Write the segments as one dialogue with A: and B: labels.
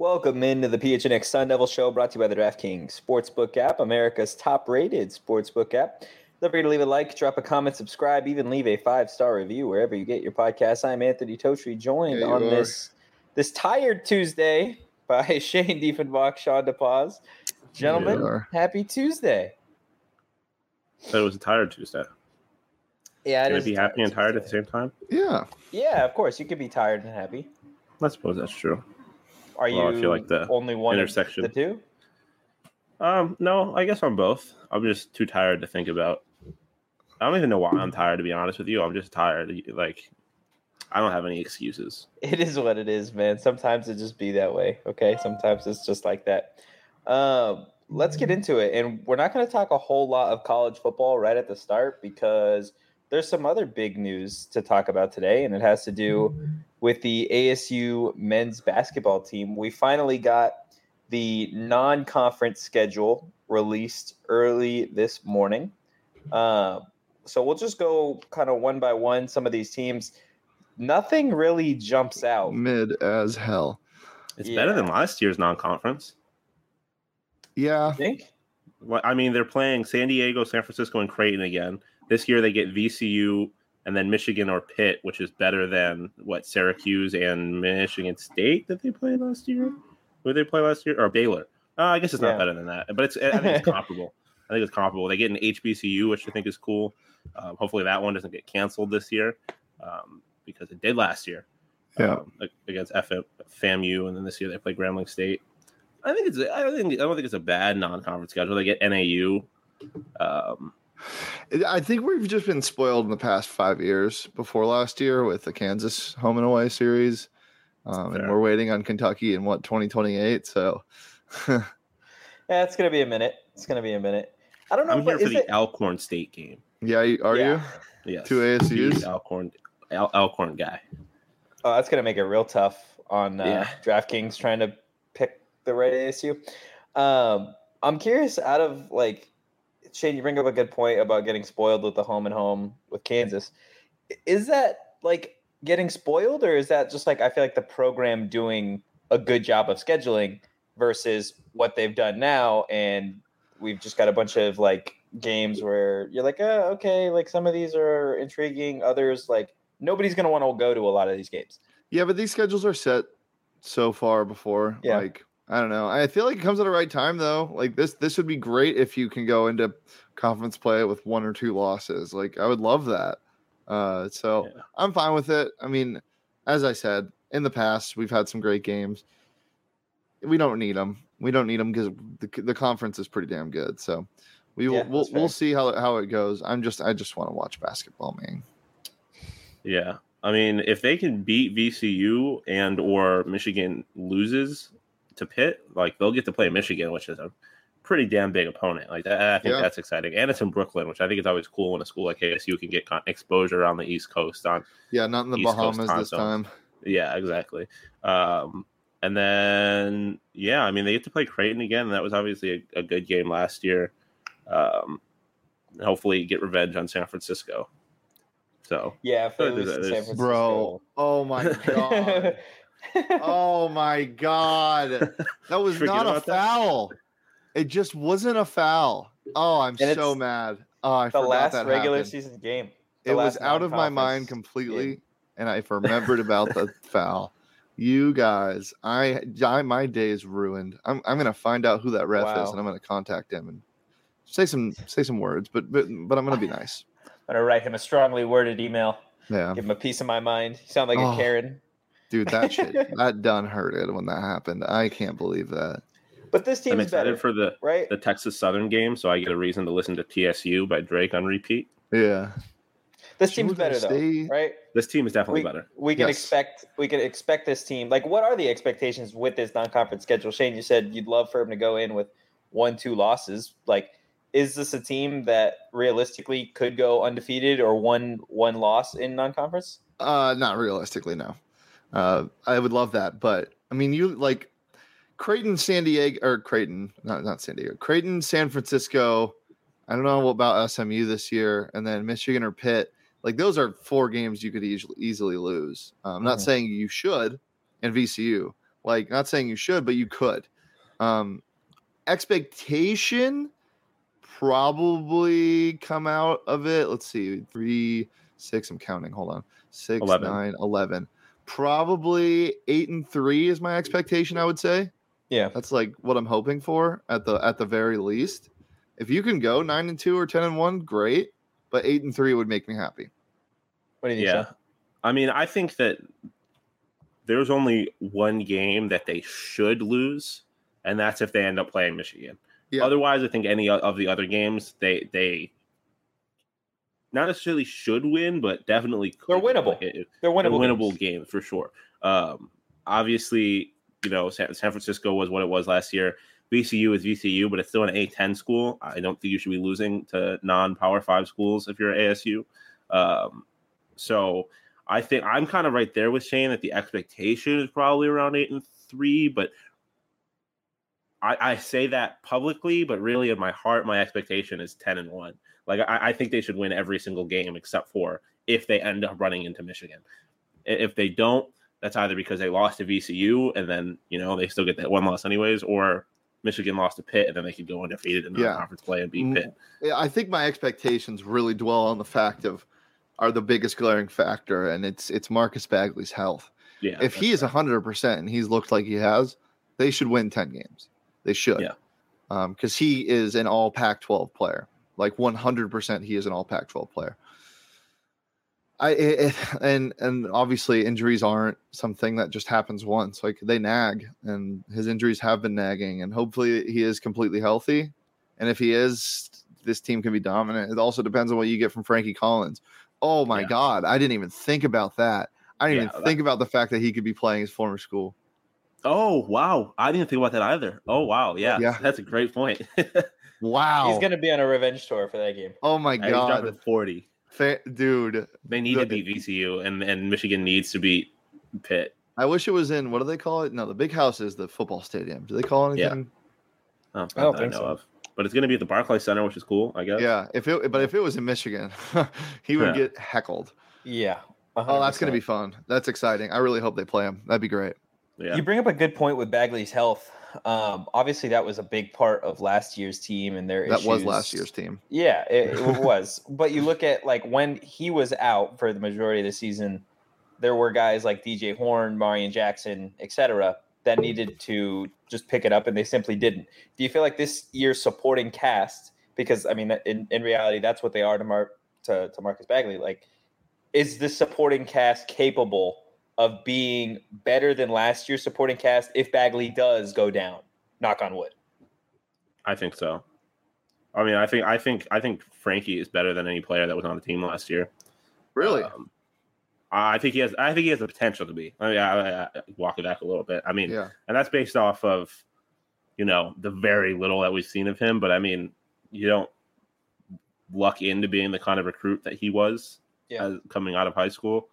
A: Welcome into the PHNX Sun Devil Show, brought to you by the DraftKings Sportsbook app, America's top-rated sportsbook app. Feel free to leave a like, drop a comment, subscribe, even leave a 5-star review wherever you get your podcasts. I'm Anthony Totri, joined on this tired Tuesday by Shane Diefenbach, Sean DePaz. Gentlemen, happy Tuesday.
B: So it was a tired Tuesday.
A: Yeah,
B: Can it be happy and tired at the same time?
A: Yeah, of course. You could be tired and happy.
B: I suppose that's true.
A: Are you I feel like the only one intersection of the two?
B: No, I guess I'm both. I'm just too tired to think about. I don't even know why I'm tired, to be honest with you. I'm just tired. Like, I don't have any excuses.
A: It is what it is, man. Sometimes it just be that way, okay? Sometimes it's just like that. Let's get into it. And we're not going to talk a whole lot of college football right at the start because there's some other big news to talk about today, and it has to do with the ASU men's basketball team. We finally got the non-conference schedule released early this morning. So we'll just go kind of one by one. Some of these teams, nothing really jumps out.
C: Mid as hell.
B: It's better than last year's non-conference.
C: Yeah.
A: You think?
B: Well, I mean, they're playing San Diego, San Francisco, and Creighton again. This year they get VCU and then Michigan or Pitt, which is better than Syracuse and Michigan State that they played last year. Who did they play last year? Or Baylor? I guess it's not better than that, but I think it's comparable. They get an HBCU, which I think is cool. Hopefully that one doesn't get canceled this year because it did last year. Against FAMU, and then this year they play Grambling State. I don't think it's a bad non-conference schedule. They get NAU.
C: I think we've just been spoiled in the past 5 years before last year with the Kansas home and away series. And we're waiting on Kentucky in 2028. So
A: yeah, it's going to be a minute. I don't know.
B: I'm here for the Alcorn State game.
C: Yeah. Are you?
B: Yes.
C: Two ASUs?
B: Alcorn guy.
A: Oh, that's going to make it real tough on DraftKings trying to pick the right ASU. I'm curious, out of Shane, you bring up a good point about getting spoiled with the home and home with Kansas. Is that getting spoiled, or is that just I feel like the program doing a good job of scheduling versus what they've done now, and we've just got a bunch of games where you're okay, some of these are intriguing, others nobody's going to want to go to a lot of these games.
C: Yeah, but these schedules are set so far before. Yeah. I don't know. I feel like it comes at the right time, though. This would be great if you can go into conference play with 1 or 2 losses. I would love that. I'm fine with it. I mean, as I said, in the past, we've had some great games. We don't need them. Because the conference is pretty damn good. So we'll see how it goes. I just want to watch basketball, man.
B: Yeah. I mean, if they can beat VCU and or Michigan loses to Pitt, they'll get to play Michigan, which is a pretty damn big opponent. I think that's exciting, and it's in Brooklyn, which I think is always cool when a school like ASU can get exposure on the East Coast. Not in the East
C: Bahamas this time.
B: Yeah, exactly. And then I mean, they get to play Creighton again, and that was obviously a good game last year. Hopefully, get revenge on San Francisco. So
A: if they lose to San Francisco,
C: bro, oh my god. Oh my god, that was not a foul. It just wasn't a foul. Oh, I'm so mad. Oh, I forgot
A: last
C: that
A: regular
C: happened.
A: Season game.
C: It was out of my mind completely, and I remembered about the foul. You guys, my day is ruined. I'm gonna find out who that ref is, and I'm gonna contact him and say some words. But I'm gonna be nice.
A: I'm gonna write him a strongly worded email.
C: Yeah,
A: give him a piece of my mind. You sound like a Karen.
C: Dude, that shit, that done hurted when that happened. I can't believe that.
A: But this team is better
B: for the Texas Southern game, so I get a reason to listen to TSU by Drake on repeat.
C: Yeah.
A: This team's better though, right?
B: This team is definitely better.
A: We can expect this team. What are the expectations with this non-conference schedule? Shane, you said you'd love for him to go in with 1-2 losses. Is this a team that realistically could go undefeated or one loss in non-conference?
C: Not realistically, no. I would love that, but I mean, Creighton, San Diego, or Creighton, not San Diego, Creighton, San Francisco. I don't know about SMU this year, and then Michigan or Pitt. Those are 4 games you could easily lose. I'm not saying you should, and VCU. Like, not saying you should, but you could. Expectation probably come out of it. Let's see, 3, 6. I'm counting. Hold on, 6,
B: 11.
C: 9, 11. Probably 8-3 is my expectation. I would say.
A: Yeah,
C: that's like what I'm hoping for at the very least. If you can go 9-2 or 10-1, great. But 8-3 would make me happy.
A: What do you think?
B: Yeah, Sean? I mean, I think that there's only one game that they should lose, and that's if they end up playing Michigan. Yeah. Otherwise, I think any of the other games they not necessarily should win, but definitely
A: they're winnable. They're winnable
B: games for sure. Obviously, San Francisco was what it was last year. VCU is VCU, but it's still an A-10 school. I don't think you should be losing to non-Power 5 schools if you're ASU. So I think I'm kind of right there with Shane that the expectation is probably around 8-3, but I say that publicly, but really in my heart, my expectation is 10-1. Like I think they should win every single game except for if they end up running into Michigan. If they don't, that's either because they lost to VCU and then, they still get that one loss anyways, or Michigan lost to Pitt and then they could go undefeated in non-conference play and beat Pitt.
C: Yeah, I think my expectations really dwell on the fact are the biggest glaring factor, and it's Marcus Bagley's health.
B: Yeah,
C: if he is 100% and he's looked like he has, they should win 10 games. They should.
B: Yeah.
C: Because he is an all Pac-12 player. Like 100% he is an all Pac-12 player. And obviously injuries aren't something that just happens once. Like they nag, and his injuries have been nagging, and hopefully he is completely healthy. And if he is, this team can be dominant. It also depends on what you get from Frankie Collins. Oh my God. I didn't even think about that. I didn't even think about the fact that he could be playing his former school.
B: Oh, wow. I didn't think about that either. Oh, wow. Yeah. That's a great point.
C: Wow.
A: He's going to be on a revenge tour for that game.
C: Oh my God.
B: He's dropping 40.
C: Dude.
B: They need to beat VCU, and Michigan needs to beat Pitt.
C: I wish it was in, what do they call it? No, the Big House is the football stadium. Do they call it anything?
B: Yeah. I don't think so. But it's going to be at the Barclays Center, which is cool, I guess.
C: Yeah, if it was in Michigan, he would get heckled.
A: Yeah. 100%.
C: Oh, that's going to be fun. That's exciting. I really hope they play him. That'd be great.
B: Yeah.
A: You bring up a good point with Bagley's health. Obviously, that was a big part of last year's team and their issues.
C: That was last year's team.
A: Yeah, it was. But you look at like when he was out for the majority of the season, there were guys like DJ Horn, Marion Jackson, etc., that needed to just pick it up, and they simply didn't. Do you feel like this year's supporting cast, because I mean, in reality, that's what they are to Marcus Bagley. Like, is this supporting cast capable of being better than last year's supporting cast if Bagley does go down? Knock on wood.
B: I think so. I mean, I think Frankie is better than any player that was on the team last year.
C: Really?
B: I think he has the potential to be. I mean, I walk it back a little bit. I mean, and that's based off of, the very little that we've seen of him. But I mean, you don't luck into being the kind of recruit that he was coming out of high school.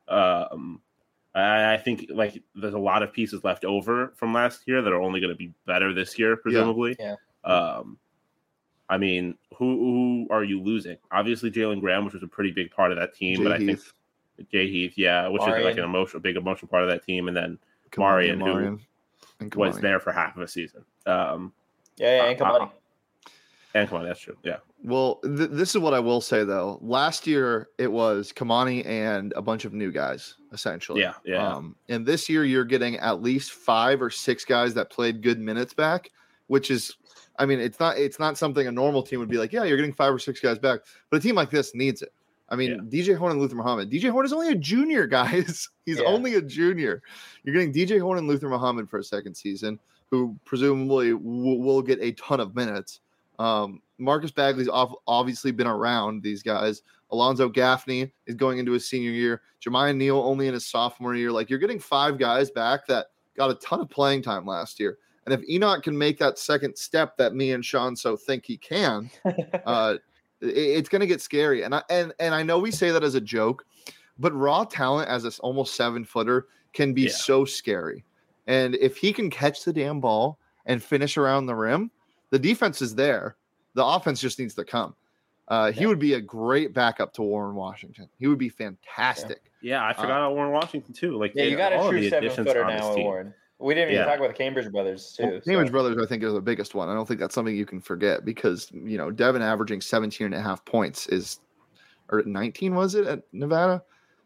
B: I think like there's a lot of pieces left over from last year that are only going to be better this year, presumably.
A: Yeah.
B: I mean, who are you losing? Obviously, Jalen Graham, which was a pretty big part of that team, but I think Jay Heath, which Marion. Is like big emotional part of that team, and then Marion, who was there for half of a season.
A: And Kamani.
B: And Kamani, that's true. Yeah.
C: Well, this is what I will say though. Last year it was Kamani and a bunch of new guys, essentially.
B: Yeah.
C: And this year you're getting at least 5 or 6 guys that played good minutes back, which is, I mean, it's not something a normal team would be like. Yeah, you're getting 5 or 6 guys back, but a team like this needs it. I mean, DJ Horn and Luther Muhammad. DJ Horn is only a junior, guys. He's only a junior. You're getting DJ Horn and Luther Muhammad for a second season, who presumably will get a ton of minutes. Marcus Bagley's obviously been around these guys. Alonzo Gaffney is going into his senior year. Jermiah Neal only in his sophomore year. Like, you're getting 5 guys back that got a ton of playing time last year. And if Enoch can make that second step that me and Sean so think he can, it's going to get scary. And I know we say that as a joke, but raw talent as this almost 7-footer can be so scary. And if he can catch the damn ball and finish around the rim, the defense is there. The offense just needs to come. He would be a great backup to Warren Washington. He would be fantastic.
B: Yeah, I forgot about Warren Washington too. Like,
A: you got a true 7-footer now, Warren. We didn't even talk about the Cambridge brothers, too.
C: Well, Cambridge brothers, I think, are the biggest one. I don't think that's something you can forget because, Devin averaging 17.5 points or 19, was it, at Nevada?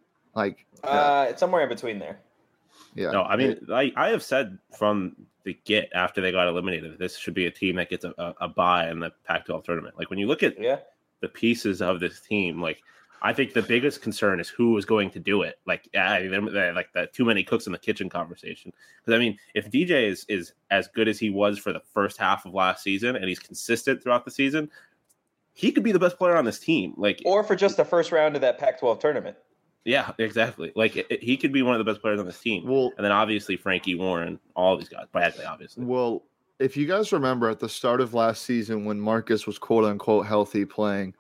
A: It's somewhere in between there.
B: Yeah. No, I mean, I have said from the get after they got eliminated, this should be a team that gets a bye in the Pac-12 tournament. Like, when you look at the pieces of this team, like, I think the biggest concern is who is going to do it. Like, they're like the too many cooks in the kitchen conversation. Because, I mean, if DJ is as good as he was for the first half of last season and he's consistent throughout the season, he could be the best player on this team. Like,
A: or for just the first round of that Pac-12 tournament.
B: Yeah, exactly. Like, he could be one of the best players on this team. Well, and then obviously Frankie, Warren, all these guys. Bradley, obviously.
C: Well, if you guys remember at the start of last season when Marcus was quote-unquote healthy playing,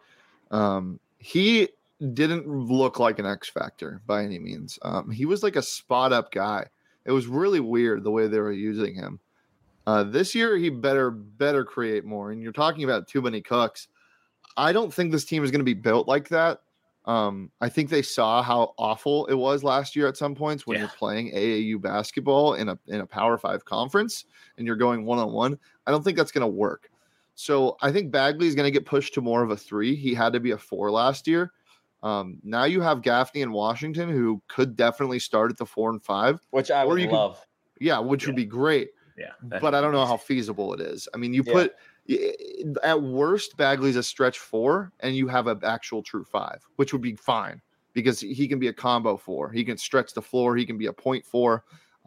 C: he didn't look like an X factor by any means. He was like a spot up guy. It was really weird the way they were using him. This year he better create more. And you're talking about too many cooks. I don't think this team is going to be built like that. I think they saw how awful it was last year at some points when you're playing AAU basketball in a Power 5 conference and you're going one-on-one. I don't think that's going to work. So I think Bagley is going to get pushed to more of a 3. He had to be a 4 last year. Now you have Gaffney and Washington, who could definitely start at the 4 and 5,
A: which I would love.
C: Which would be great.
B: Yeah,
C: but I don't know how feasible it is. I mean, you put at worst Bagley's a stretch 4, and you have an actual true 5, which would be fine because he can be a combo 4. He can stretch the floor. He can be a point 4.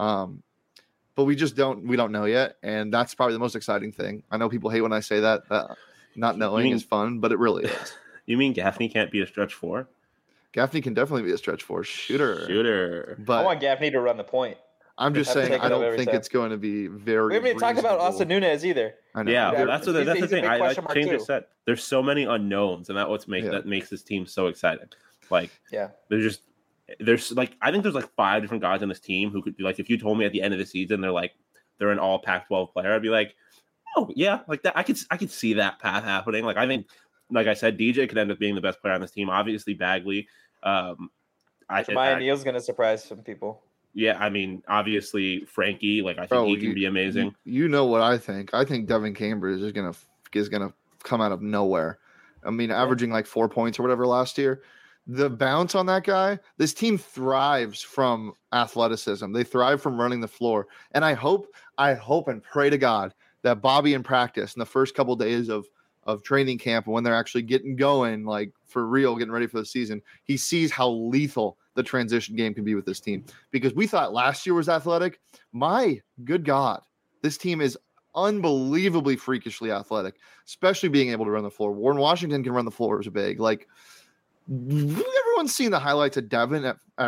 C: But we don't know yet, and that's probably the most exciting thing. I know people hate when I say that. Not knowing is fun, but it really is.
B: You mean Gaffney can't be a stretch 4?
C: Gaffney can definitely be a stretch 4 shooter.
A: But I want Gaffney to run the point.
C: I'm just saying I don't think it's going to be very.
A: We haven't even talked about Austin Nunez either.
B: I know. Yeah, that's the thing. I changed it. Set. There's so many unknowns, and that makes this team so exciting. Like, there's like I think there's like 5 different guys on this team who could be like, if you told me at the end of the season they're an all Pac-12 player, I'd be like, oh yeah, like that. I could see that path happening. Like, I think, like I said, DJ could end up being the best player on this team. Obviously, Bagley.
A: Jemiah Neal's going to surprise some people.
B: Yeah, I mean, obviously Frankie. Like, I think he can be amazing.
C: You know what I think? I think Devin Cambridge is gonna come out of nowhere. I mean, averaging like 4 points or whatever last year. The bounce on that guy. This team thrives from athleticism. They thrive from running the floor. And I hope and pray to God that Bobby in practice in the first couple days of training camp, when they're actually getting going, like for real, getting ready for the season, he sees how lethal the transition game can be with this team. Because we thought last year was athletic. My good God, this team is unbelievably freakishly athletic, especially being able to run the floor. Warren Washington can run the floor as a big. Like, everyone's seen the highlights of Devin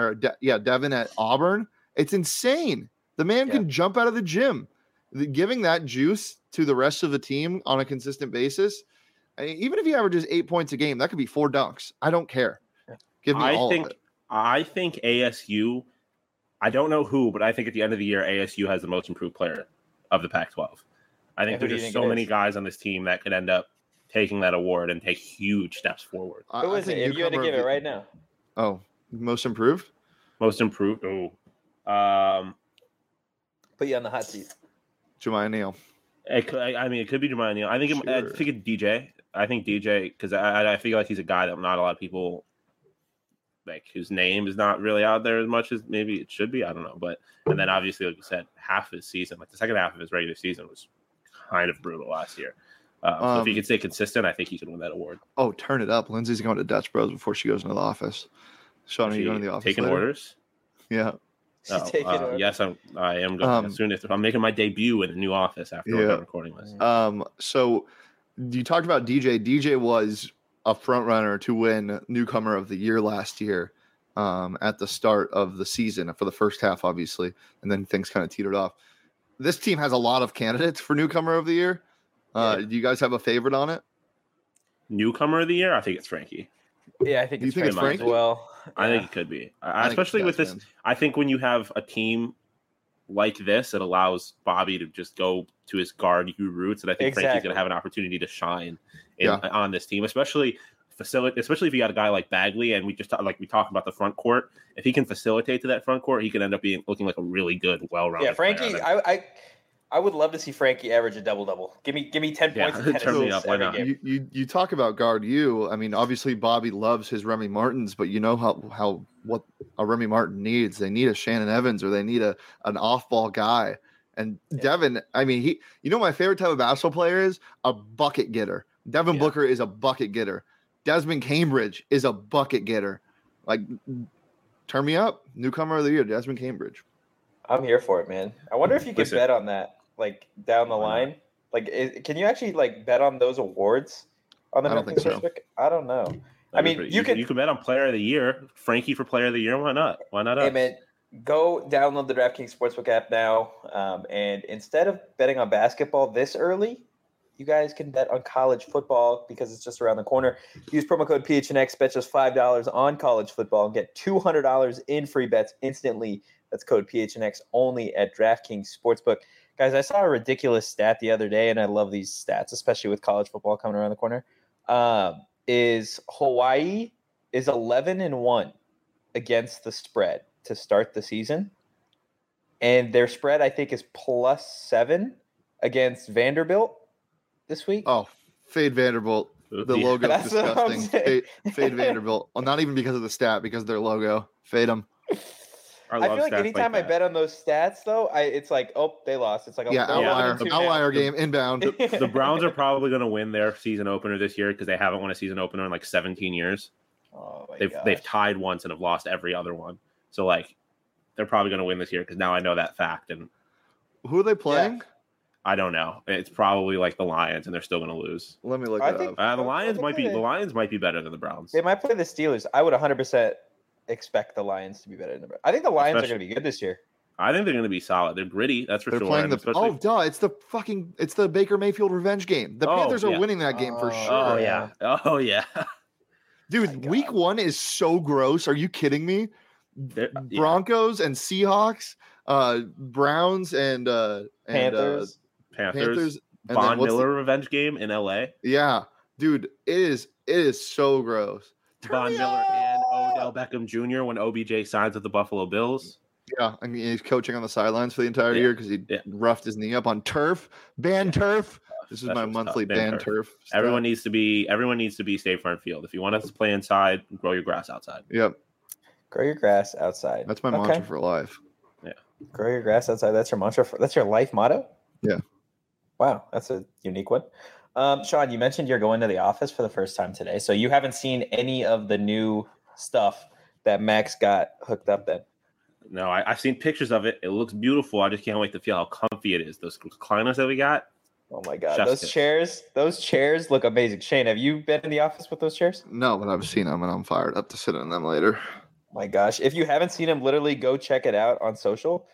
C: at Auburn. It's insane. The man can jump out of the gym. Giving that juice to the rest of the team on a consistent basis, even if he averages 8 points a game, that could be 4 dunks. I don't care. Give me all of it.
B: I think ASU, I don't know who, but I think at the end of the year, ASU has the most improved player of the Pac-12. I think there's just so many guys on this team that could end up taking that award and take huge steps forward.
A: Who is it? If you had to give it right now.
C: Oh, most improved?
B: Most improved. Oh.
A: Put you on the hot seat.
C: Jemiah Neal.
B: It could be Jemiah Neal. I think it's DJ. I think DJ, because I feel like he's a guy that not a lot of people, like, whose name is not really out there as much as maybe it should be. I don't know. And then obviously, like you said, half his season, like the second half of his regular season was kind of brutal last year. So if he could stay consistent, I think he could win that award.
C: Oh, turn it up. Lindsay's going to Dutch Bros before she goes into the office. Sean, are you going to the office
B: taking
C: later?
B: Orders?
C: Yeah.
B: Yes, I am going as soon as I'm making my debut in the new office after we're done recording this.
C: So you talked about DJ. DJ was a front runner to win Newcomer of the Year last year at the start of the season for the first half, obviously, and then things kind of teetered off. This team has a lot of candidates for Newcomer of the Year. Do you guys have a favorite on it?
B: Newcomer of the Year? I think it's Frankie.
A: Yeah, I think it's Frankie as well.
B: I think it could be, especially with this. I think when you have a team like this, it allows Bobby to just go to his guard roots, and I think Frankie's going to have an opportunity to shine on this team, especially facilitate, especially if you got a guy like Bagley, and we talked about the front court. If he can facilitate to that front court, he can end up looking like a really good, well-rounded.
A: Yeah, Frankie, I would love to see Frankie average a double-double. Give me 10 points and 10 assists every game.
C: You talk about guard you. I mean, obviously Bobby loves his Remy Martins, but you know what a Remy Martin needs. They need a Shannon Evans, or they need an off-ball guy. And Devin, I mean, my favorite type of basketball player is a bucket getter. Devin Booker is a bucket getter. Desmond Cambridge is a bucket getter. Like, turn me up. Newcomer of the year, Desmond Cambridge.
A: I'm here for it, man. I wonder if you could bet on that, like, down the line. Like, can you actually, like, bet on those awards on the DraftKings Sportsbook? I don't know. I mean, you can bet
B: on Player of the Year. Frankie for Player of the Year. Why not? Why not us?
A: Hey, man, go download the DraftKings Sportsbook app now. And instead of betting on basketball this early, you guys can bet on college football because it's just around the corner. Use promo code PHNX, bet just $5 on college football, and get $200 in free bets instantly. That's code PHNX only at DraftKings Sportsbook. Guys, I saw a ridiculous stat the other day, and I love these stats, especially with college football coming around the corner. Is Hawaii is 11-1 against the spread to start the season. And their spread, I think, is +7 against Vanderbilt this week.
C: Oh, fade Vanderbilt. The logo is disgusting. Fade Vanderbilt. Well, not even because of the stat, because of their logo. Fade them.
A: I feel like anytime I bet on those stats, though, it's like, oh, they lost. It's like
C: outlier game inbound.
B: The Browns are probably going to win their season opener this year because they haven't won a season opener in like 17 years.
A: Oh,
B: they've tied once and have lost every other one. So like, they're probably going to win this year because now I know that fact. And
C: who are they playing?
B: Yeah. I don't know. It's probably like the Lions, and they're still going to lose.
C: Let me look it up.
B: The Lions might be better than the Browns.
A: They might play the Steelers. I would 100% expect the Lions to be better than the Browns. I think the Lions are going to be good this year.
B: I think they're going to be solid. They're gritty. That's for sure.
C: Playing it's the Baker Mayfield revenge game. The Panthers are winning that game for sure.
B: Oh yeah.
C: Dude, week 1 is so gross. Are you kidding me? Broncos and Seahawks, Browns and
A: Panthers.
B: Von Miller revenge game in LA.
C: Yeah, dude, it is so gross.
B: Von Miller and Odell Beckham Jr. when OBJ signs with the Buffalo Bills.
C: Yeah, I mean, he's coaching on the sidelines for the entire year because he roughed his knee up on turf. Ban turf. This is my monthly ban turf.
B: Everyone needs to be State Farm Field. If you want us to play inside, grow your grass outside.
C: Yep.
A: Grow your grass outside.
C: That's my mantra for life.
B: Yeah.
A: Grow your grass outside. That's your mantra. That's your life motto?
C: Yeah.
A: Wow, that's a unique one. Sean, you mentioned you're going to the office for the first time today, so you haven't seen any of the new stuff that Max got hooked up then.
B: No, I've seen pictures of it. It looks beautiful. I just can't wait to feel how comfy it is. Those recliners that we got.
A: Oh my God, those chairs look amazing. Shane, have you been in the office with those chairs?
C: No, but I've seen them and I'm fired up to sit in them later.
A: My gosh, if you haven't seen them, literally go check it out on social.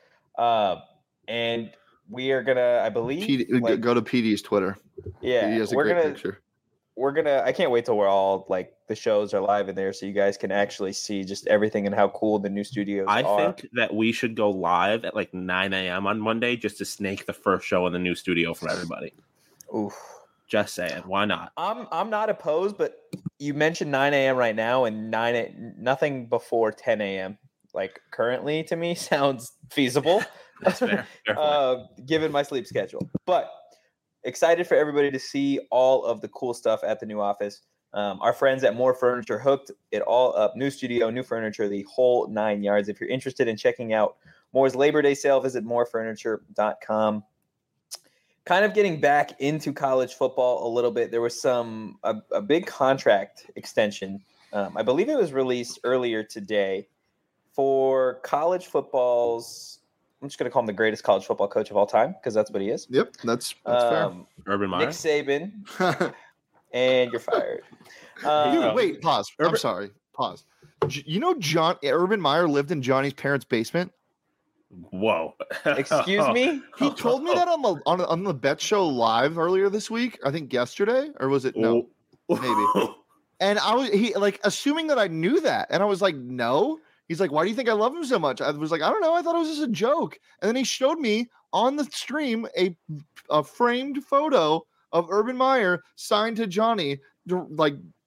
A: And we are gonna, I believe,
C: go to PD's Twitter.
A: Yeah,
C: he has a great picture.
A: I can't wait till we're all like the shows are live in there so you guys can actually see just everything and how cool the new studios are.
B: I think that we should go live at like 9 a.m. on Monday just to snake the first show in the new studio from everybody.
A: Oof.
B: Just saying, why not?
A: I'm not opposed, but you mentioned 9 a.m. right now, and nothing before 10 a.m. like currently to me sounds feasible.
B: That's fair.
A: Given my sleep schedule, but excited for everybody to see all of the cool stuff at the new office. Our friends at More Furniture hooked it all up. New studio, new furniture, the whole 9 yards. If you're interested in checking out Moore's Labor Day sale, visit morefurniture.com. Kind of getting back into college football a little bit. There was a big contract extension. I believe it was released earlier today for college football's. I'm just going to call him the greatest college football coach of all time because that's what he is.
C: Yep, that's fair.
B: Urban Meyer.
A: Nick Saban. And you're fired.
C: Dude, wait, pause. I'm sorry. Pause. You know Urban Meyer lived in Johnny's parents' basement?
B: Whoa.
A: Excuse me?
C: He told me that on the Bet Show live earlier this week. I think yesterday. Or was it? No. Maybe. And he assuming that I knew that. And I was like, no. He's like, why do you think I love him so much? I was like, I don't know. I thought it was just a joke. And then he showed me on the stream a framed photo of Urban Meyer signed to Johnny, like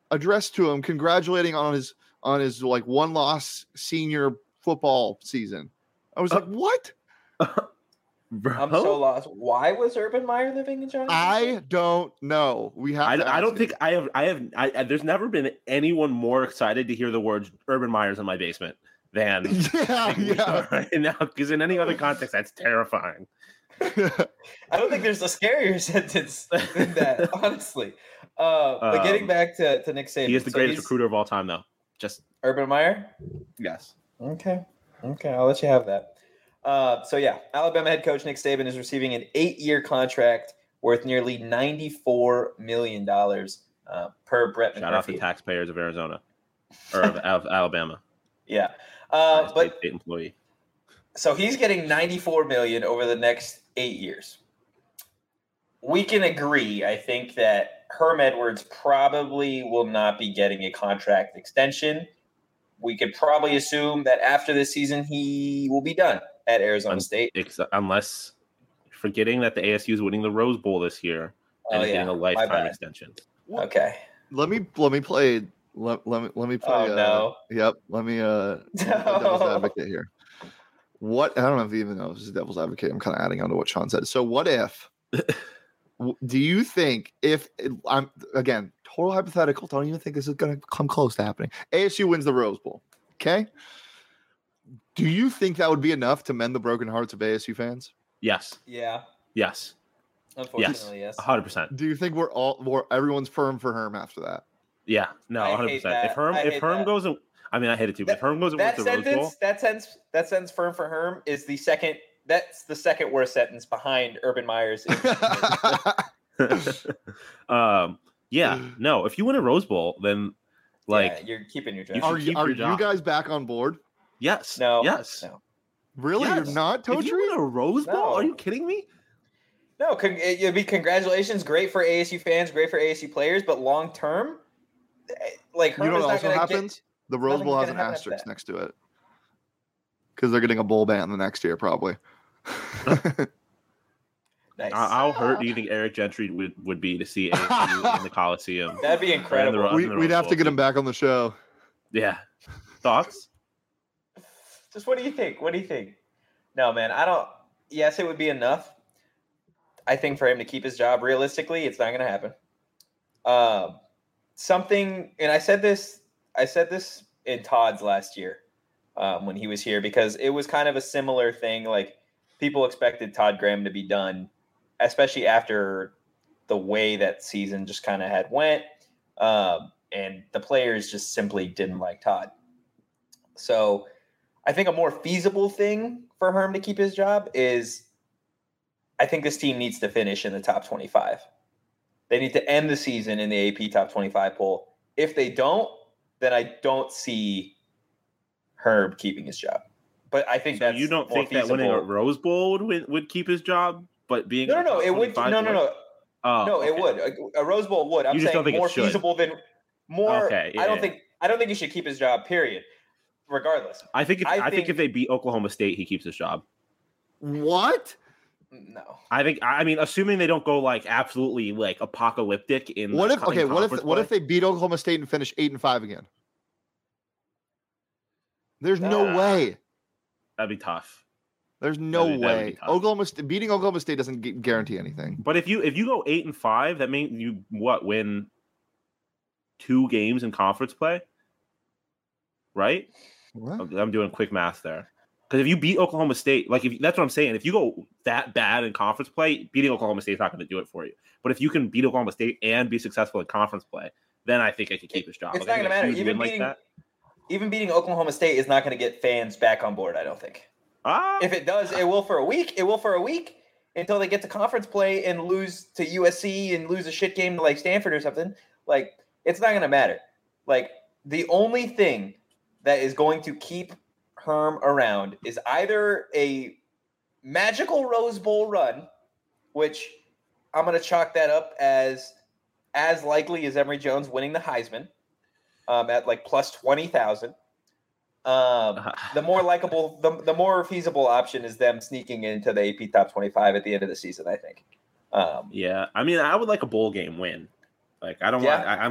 C: addressed to him, congratulating on his like 1-loss senior football season. I was like, what?
A: Bro? I'm so lost. Why was Urban Meyer living in Johnson?
C: I don't know. We have.
B: I don't think I have. There's never been anyone more excited to hear the words Urban Meyer's in my basement than right now. Because in any other context, that's terrifying.
A: I don't think there's a scarier sentence than that, honestly. But getting back to Nick Saban,
B: he is the greatest recruiter of all time, though. Just
A: Urban Meyer.
B: Yes.
A: Okay. I'll let you have that. Alabama head coach Nick Saban is receiving an 8-year contract worth nearly $94 million per Brett McMurphy.
B: Shout out to taxpayers of Arizona or of Alabama.
A: Yeah,
B: state employee.
A: So he's getting $94 million over the next 8 years. We can agree, I think, that Herm Edwards probably will not be getting a contract extension. We could probably assume that after this season, he will be done at Arizona State.
B: Unless forgetting that the ASU is winning the Rose Bowl this year and getting a lifetime extension.
A: Okay.
C: Let me play. Let me play.
A: Oh, no.
C: Yep. Let me devil's advocate here. What I don't know if you even know if this is devil's advocate. I'm kind of adding on to what Sean said. So what if? Do you think if I'm again total hypothetical? Don't even think this is going to come close to happening. ASU wins the Rose Bowl. Okay. Do you think that would be enough to mend the broken hearts of ASU fans?
B: Yes.
A: Yeah.
B: Yes.
A: Unfortunately, yes.
B: 100%.
C: Do you think everyone's firm for Herm after that?
B: Yeah. No, 100%. If Herm goes, I mean, I hate it too. But if Herm goes and wins the Rose Bowl,
A: that sentence firm for Herm is the second. That's the second worst sentence behind Urban Meyer's.
B: Yeah. No. If you win a Rose Bowl, then
A: you're keeping your job.
C: Are you guys back on board?
B: Yes.
A: No.
B: Yes.
A: No.
C: Really?
B: Yes.
C: You're not, Totri?
B: If you win a Rose Bowl? Are you kidding me?
A: No. It'd be congratulations. Great for ASU fans. Great for ASU players. But long term, like Herm,
C: you know what also happens? The Rose Bowl has an asterisk next to it because they're getting a bowl ban the next year, probably.
A: Nice.
B: How hurt do you think Eric Gentry would be to see ASU in the Coliseum?
A: That'd be incredible.
C: We'd have to get him back on the show.
B: Yeah. Thoughts?
A: Just what do you think? No, man, I don't. Yes, it would be enough. I think for him to keep his job, realistically, it's not going to happen. Something, and I said this in Todd's last year when he was here, because it was kind of a similar thing. Like, people expected Todd Graham to be done, especially after the way that season just kind of had went. And the players just simply didn't like Todd. So I think a more feasible thing for Herm to keep his job is, I think this team needs to finish in the top 25. They need to end the season in the AP top 25 poll. If they don't, then I don't see Herm keeping his job. But I think that's
B: you don't
A: more
B: think
A: feasible.
B: That winning a Rose Bowl would keep his job, but being
A: no, it would. No.
B: Oh,
A: it would. A Rose Bowl would. I'm saying more feasible than more.
B: Okay, yeah,
A: I don't think he should keep his job. Period. Regardless,
B: I think if they beat Oklahoma State, he keeps his job.
C: What?
A: No.
B: I mean, assuming they don't go like absolutely like apocalyptic in.
C: What if they beat Oklahoma State and finish 8-5 again? There's no way.
B: That'd be tough.
C: There's no way. Beating Oklahoma State doesn't guarantee anything.
B: But if you go 8-5, that means you win 2 games in conference play, right?
C: What?
B: I'm doing quick math there. Because if you beat Oklahoma State, that's what I'm saying. If you go that bad in conference play, beating Oklahoma State is not going to do it for you. But if you can beat Oklahoma State and be successful in conference play, then I think I could keep his job.
A: It's not going to matter. Even beating Oklahoma State is not going to get fans back on board, I don't think. If it does, it will for a week. It will for a week until they get to conference play and lose to USC and lose a shit game to like Stanford or something. Like, it's not going to matter. Like, the only thing that is going to keep Herm around is either a magical Rose Bowl run, which I'm going to chalk that up as likely as Emory Jones winning the Heisman at like plus 20,000. The more likable, the more feasible option is them sneaking into the AP top 25 at the end of the season, I think.
B: Yeah, I mean, I would like a bowl game win. Like, I don't want.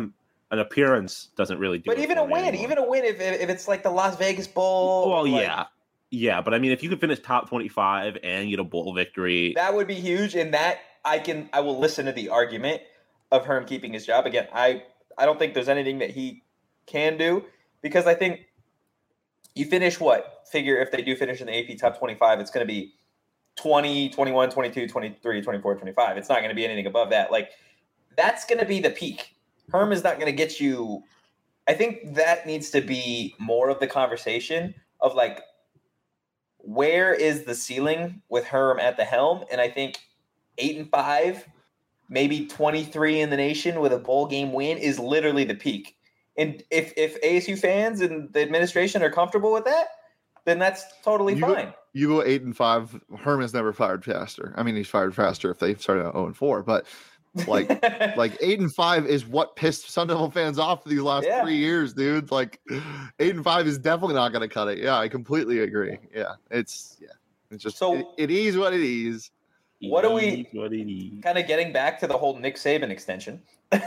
B: an appearance doesn't really do.
A: But even a win, if it's like the Las Vegas Bowl.
B: Well, yeah. But I mean, if you could finish top 25 and get a bowl victory,
A: that would be huge. And that I will listen to the argument of Herm keeping his job. Again, I don't think there's anything that he can do, because I think you finish figure if they do finish in the AP top 25, it's going to be 20, 21, 22, 23, 24, 25. It's not going to be anything above that. Like, that's going to be the peak. Herm is not going to get you. I think that needs to be more of the conversation of like, where is the ceiling with Herm at the helm? And I think 8-5, maybe 23 in the nation with a bowl game win is literally the peak. And if ASU fans and the administration are comfortable with that, then that's totally fine.
C: You go 8-5. Herm has never fired faster. I mean, he's fired faster if they started at 0-4, but like 8-5 is what pissed Sun Devil fans off these last 3 years, dude. Like 8-5 is definitely not going to cut it. Yeah, I completely agree. Yeah, it's just it is what it is.
A: What are we kind of getting back to the whole Nick Saban extension?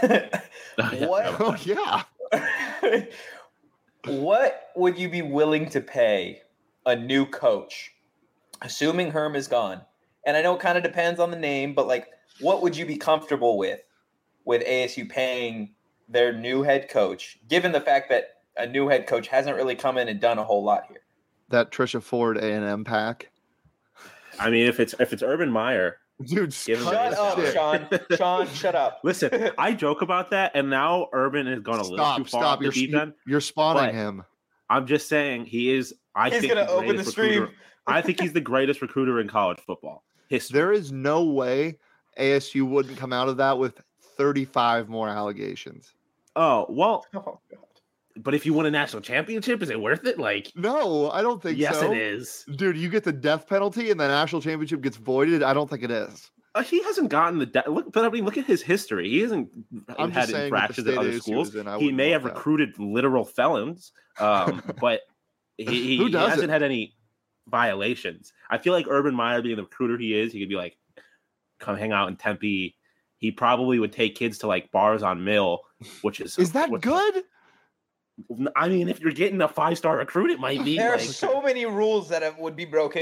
A: What would you be willing to pay a new coach, assuming Herm is gone? And I know it kind of depends on the name, but like, what would you be comfortable with ASU paying their new head coach, given the fact that a new head coach hasn't really come in and done a whole lot here?
C: That Trisha Ford A&M pack.
B: I mean, if it's Urban Meyer,
C: dude,
A: shut up, Sean. Sean, shut up.
B: Listen, I joke about that, and now Urban has gone a little too far off the deep end.
C: You're spawning him.
B: I'm just saying he's going to open the stream. I think he's the greatest recruiter in college football history.
C: There is no way ASU wouldn't come out of that with 35 more allegations.
B: Oh, well. Oh, God. But if you win a national championship, is it worth it? Like,
C: no, I don't think so.
B: Yes, it is.
C: Dude, you get the death penalty and the national championship gets voided. I don't think it is.
B: He hasn't gotten the death. Look at his history. He hasn't had infractions at other schools. He may have recruited literal felons, but he hasn't had any violations. I feel like Urban Meyer, being the recruiter he is, he could be like, come hang out in Tempe. He probably would take kids to like bars on Mill, which is
C: that good?
B: I mean, if you're getting a 5-star recruit, it might be.
A: There are so many rules that would be broken.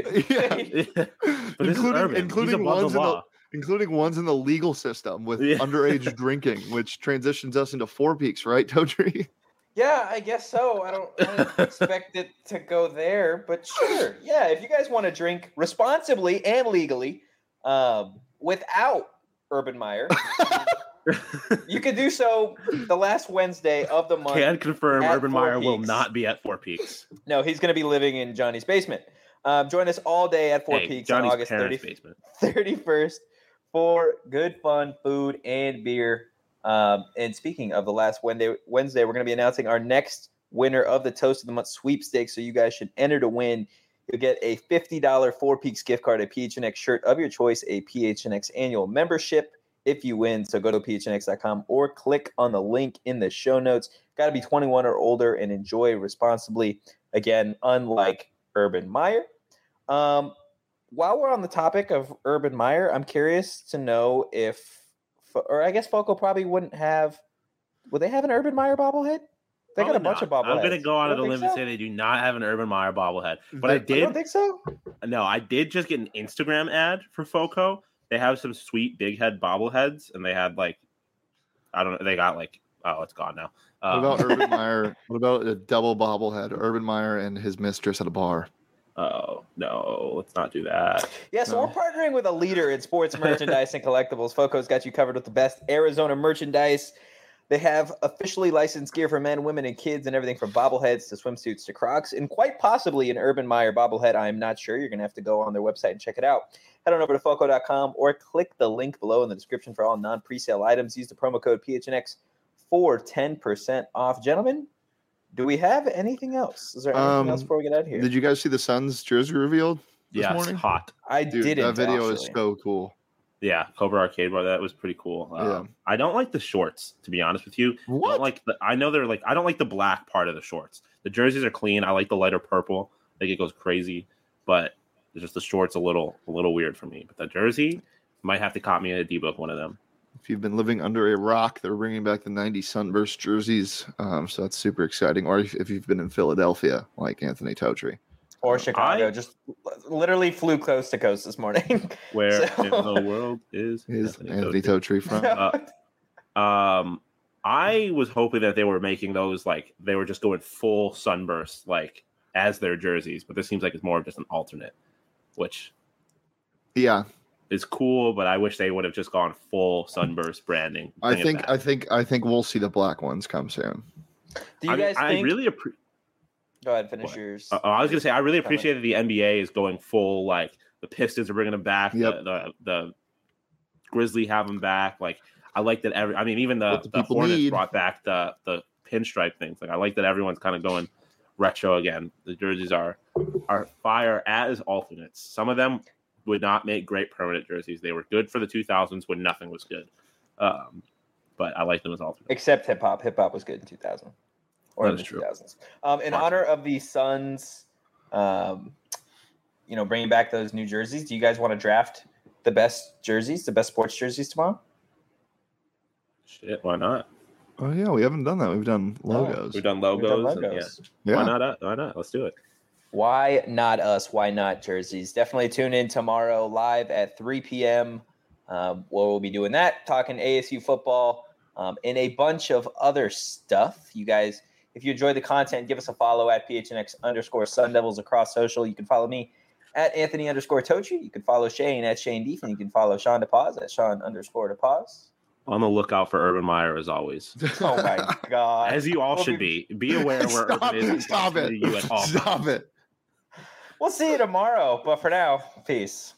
C: Including ones in the legal system with underage drinking, which transitions us into Four Peaks, right, Totri?
A: Yeah, I guess so. I don't expect it to go there, but sure. Yeah, if you guys want to drink responsibly and legally without Urban Meyer, you can do so the last Wednesday of the month.
B: Can confirm Urban Meyer will not be at Four Peaks.
A: No, he's going to be living in Johnny's basement. Join us all day at Four Peaks on August 31st for good fun, food, and beer. And speaking of the last Wednesday, we're going to be announcing our next winner of the Toast of the Month sweepstakes. So you guys should enter to win. You'll get a $50 Four Peaks gift card, a PHNX shirt of your choice, a PHNX annual membership if you win. So go to phnx.com or click on the link in the show notes. Got to be 21 or older and enjoy responsibly. Again, unlike Urban Meyer. While we're on the topic of Urban Meyer, I'm curious to know or I guess Foco probably wouldn't have. Would they have an Urban Meyer bobblehead? They got a bunch of bobbleheads.
B: I'm going to go out of the limb and say they do not have an Urban Meyer bobblehead. But I
A: don't think so.
B: No, I did just get an Instagram ad for Foco. They have some sweet big head bobbleheads, and they had like, I don't know, they got like, oh, it's gone now.
C: What about Urban Meyer? What about a double bobblehead? Urban Meyer and his mistress at a bar.
B: Oh, no, let's not do that.
A: Yeah, so we're partnering with a leader in sports merchandise and collectibles. Foco's got you covered with the best Arizona merchandise. They have officially licensed gear for men, women, and kids, and everything from bobbleheads to swimsuits to Crocs, and quite possibly an Urban Meyer bobblehead. I'm not sure. You're going to have to go on their website and check it out. Head on over to Foco.com or click the link below in the description for all non-presale items. Use the promo code PHNX for 10% off. Gentlemen, do we have anything else? Is there anything else before we get out of here?
C: Did you guys see the Suns jersey revealed this morning?
B: It's hot.
A: I didn't.
C: That video is so cool.
B: Yeah, Cobra Arcade Bar. That was pretty cool. I don't like the shorts, to be honest with you.
C: What?
B: I know they're like. I don't like the black part of the shorts. The jerseys are clean. I like the lighter purple. I think it goes crazy, but it's just the shorts a little weird for me. But the jersey might have to cop me a D-Book one of them.
C: If you've been living under a rock, they're bringing back the 90 Sunburst jerseys. So that's super exciting. Or if you've been in Philadelphia, like Anthony Totri.
A: Or Chicago, just literally flew coast to coast this morning.
B: Where in the world is
C: Anthony Totri
B: from? I was hoping that they were making those like they were just going full Sunburst like as their jerseys, but this seems like it's more of just an alternate, which is cool. But I wish they would have just gone full Sunburst branding.
C: I think we'll see the black ones come soon.
A: Do you guys think?
B: I really
A: Go ahead, finish yours.
B: I was going to say, I really appreciate that the NBA is going full, like, the Pistons are bringing them back, the Grizzlies have them back. Like, I like that even the Hornets brought back the pinstripe things. Like, I like that everyone's kind of going retro again. The jerseys are fire as alternates. Some of them would not make great permanent jerseys. They were good for the 2000s when nothing was good. But I like them as alternates.
A: Except hip hop. Hip hop was good in 2000. Or in the 2000s. In honor of the Suns, bringing back those new jerseys, do you guys want to draft the best jerseys, the best sports jerseys tomorrow?
B: Shit, why not?
C: Oh, yeah, we haven't done that. We've done logos.
B: We've done logos. Why not? Why not? Let's do it.
A: Why not us? Why not jerseys? Definitely tune in tomorrow live at 3 p.m. Where we'll be doing that, talking ASU football and a bunch of other stuff. You guys... If you enjoyed the content, give us a follow at PHNX_Sun Devils across social. You can follow me at Anthony_Totri. You can follow Shane at Shane Deef, and you can follow Sean DePaz at Sean_DePaz.
B: On the lookout for Urban Meyer as always.
A: Oh my God.
B: As you all should be. Be aware where Urban is.
C: Stop it.
B: You at all
C: Stop it.
A: We'll see you tomorrow. But for now, peace.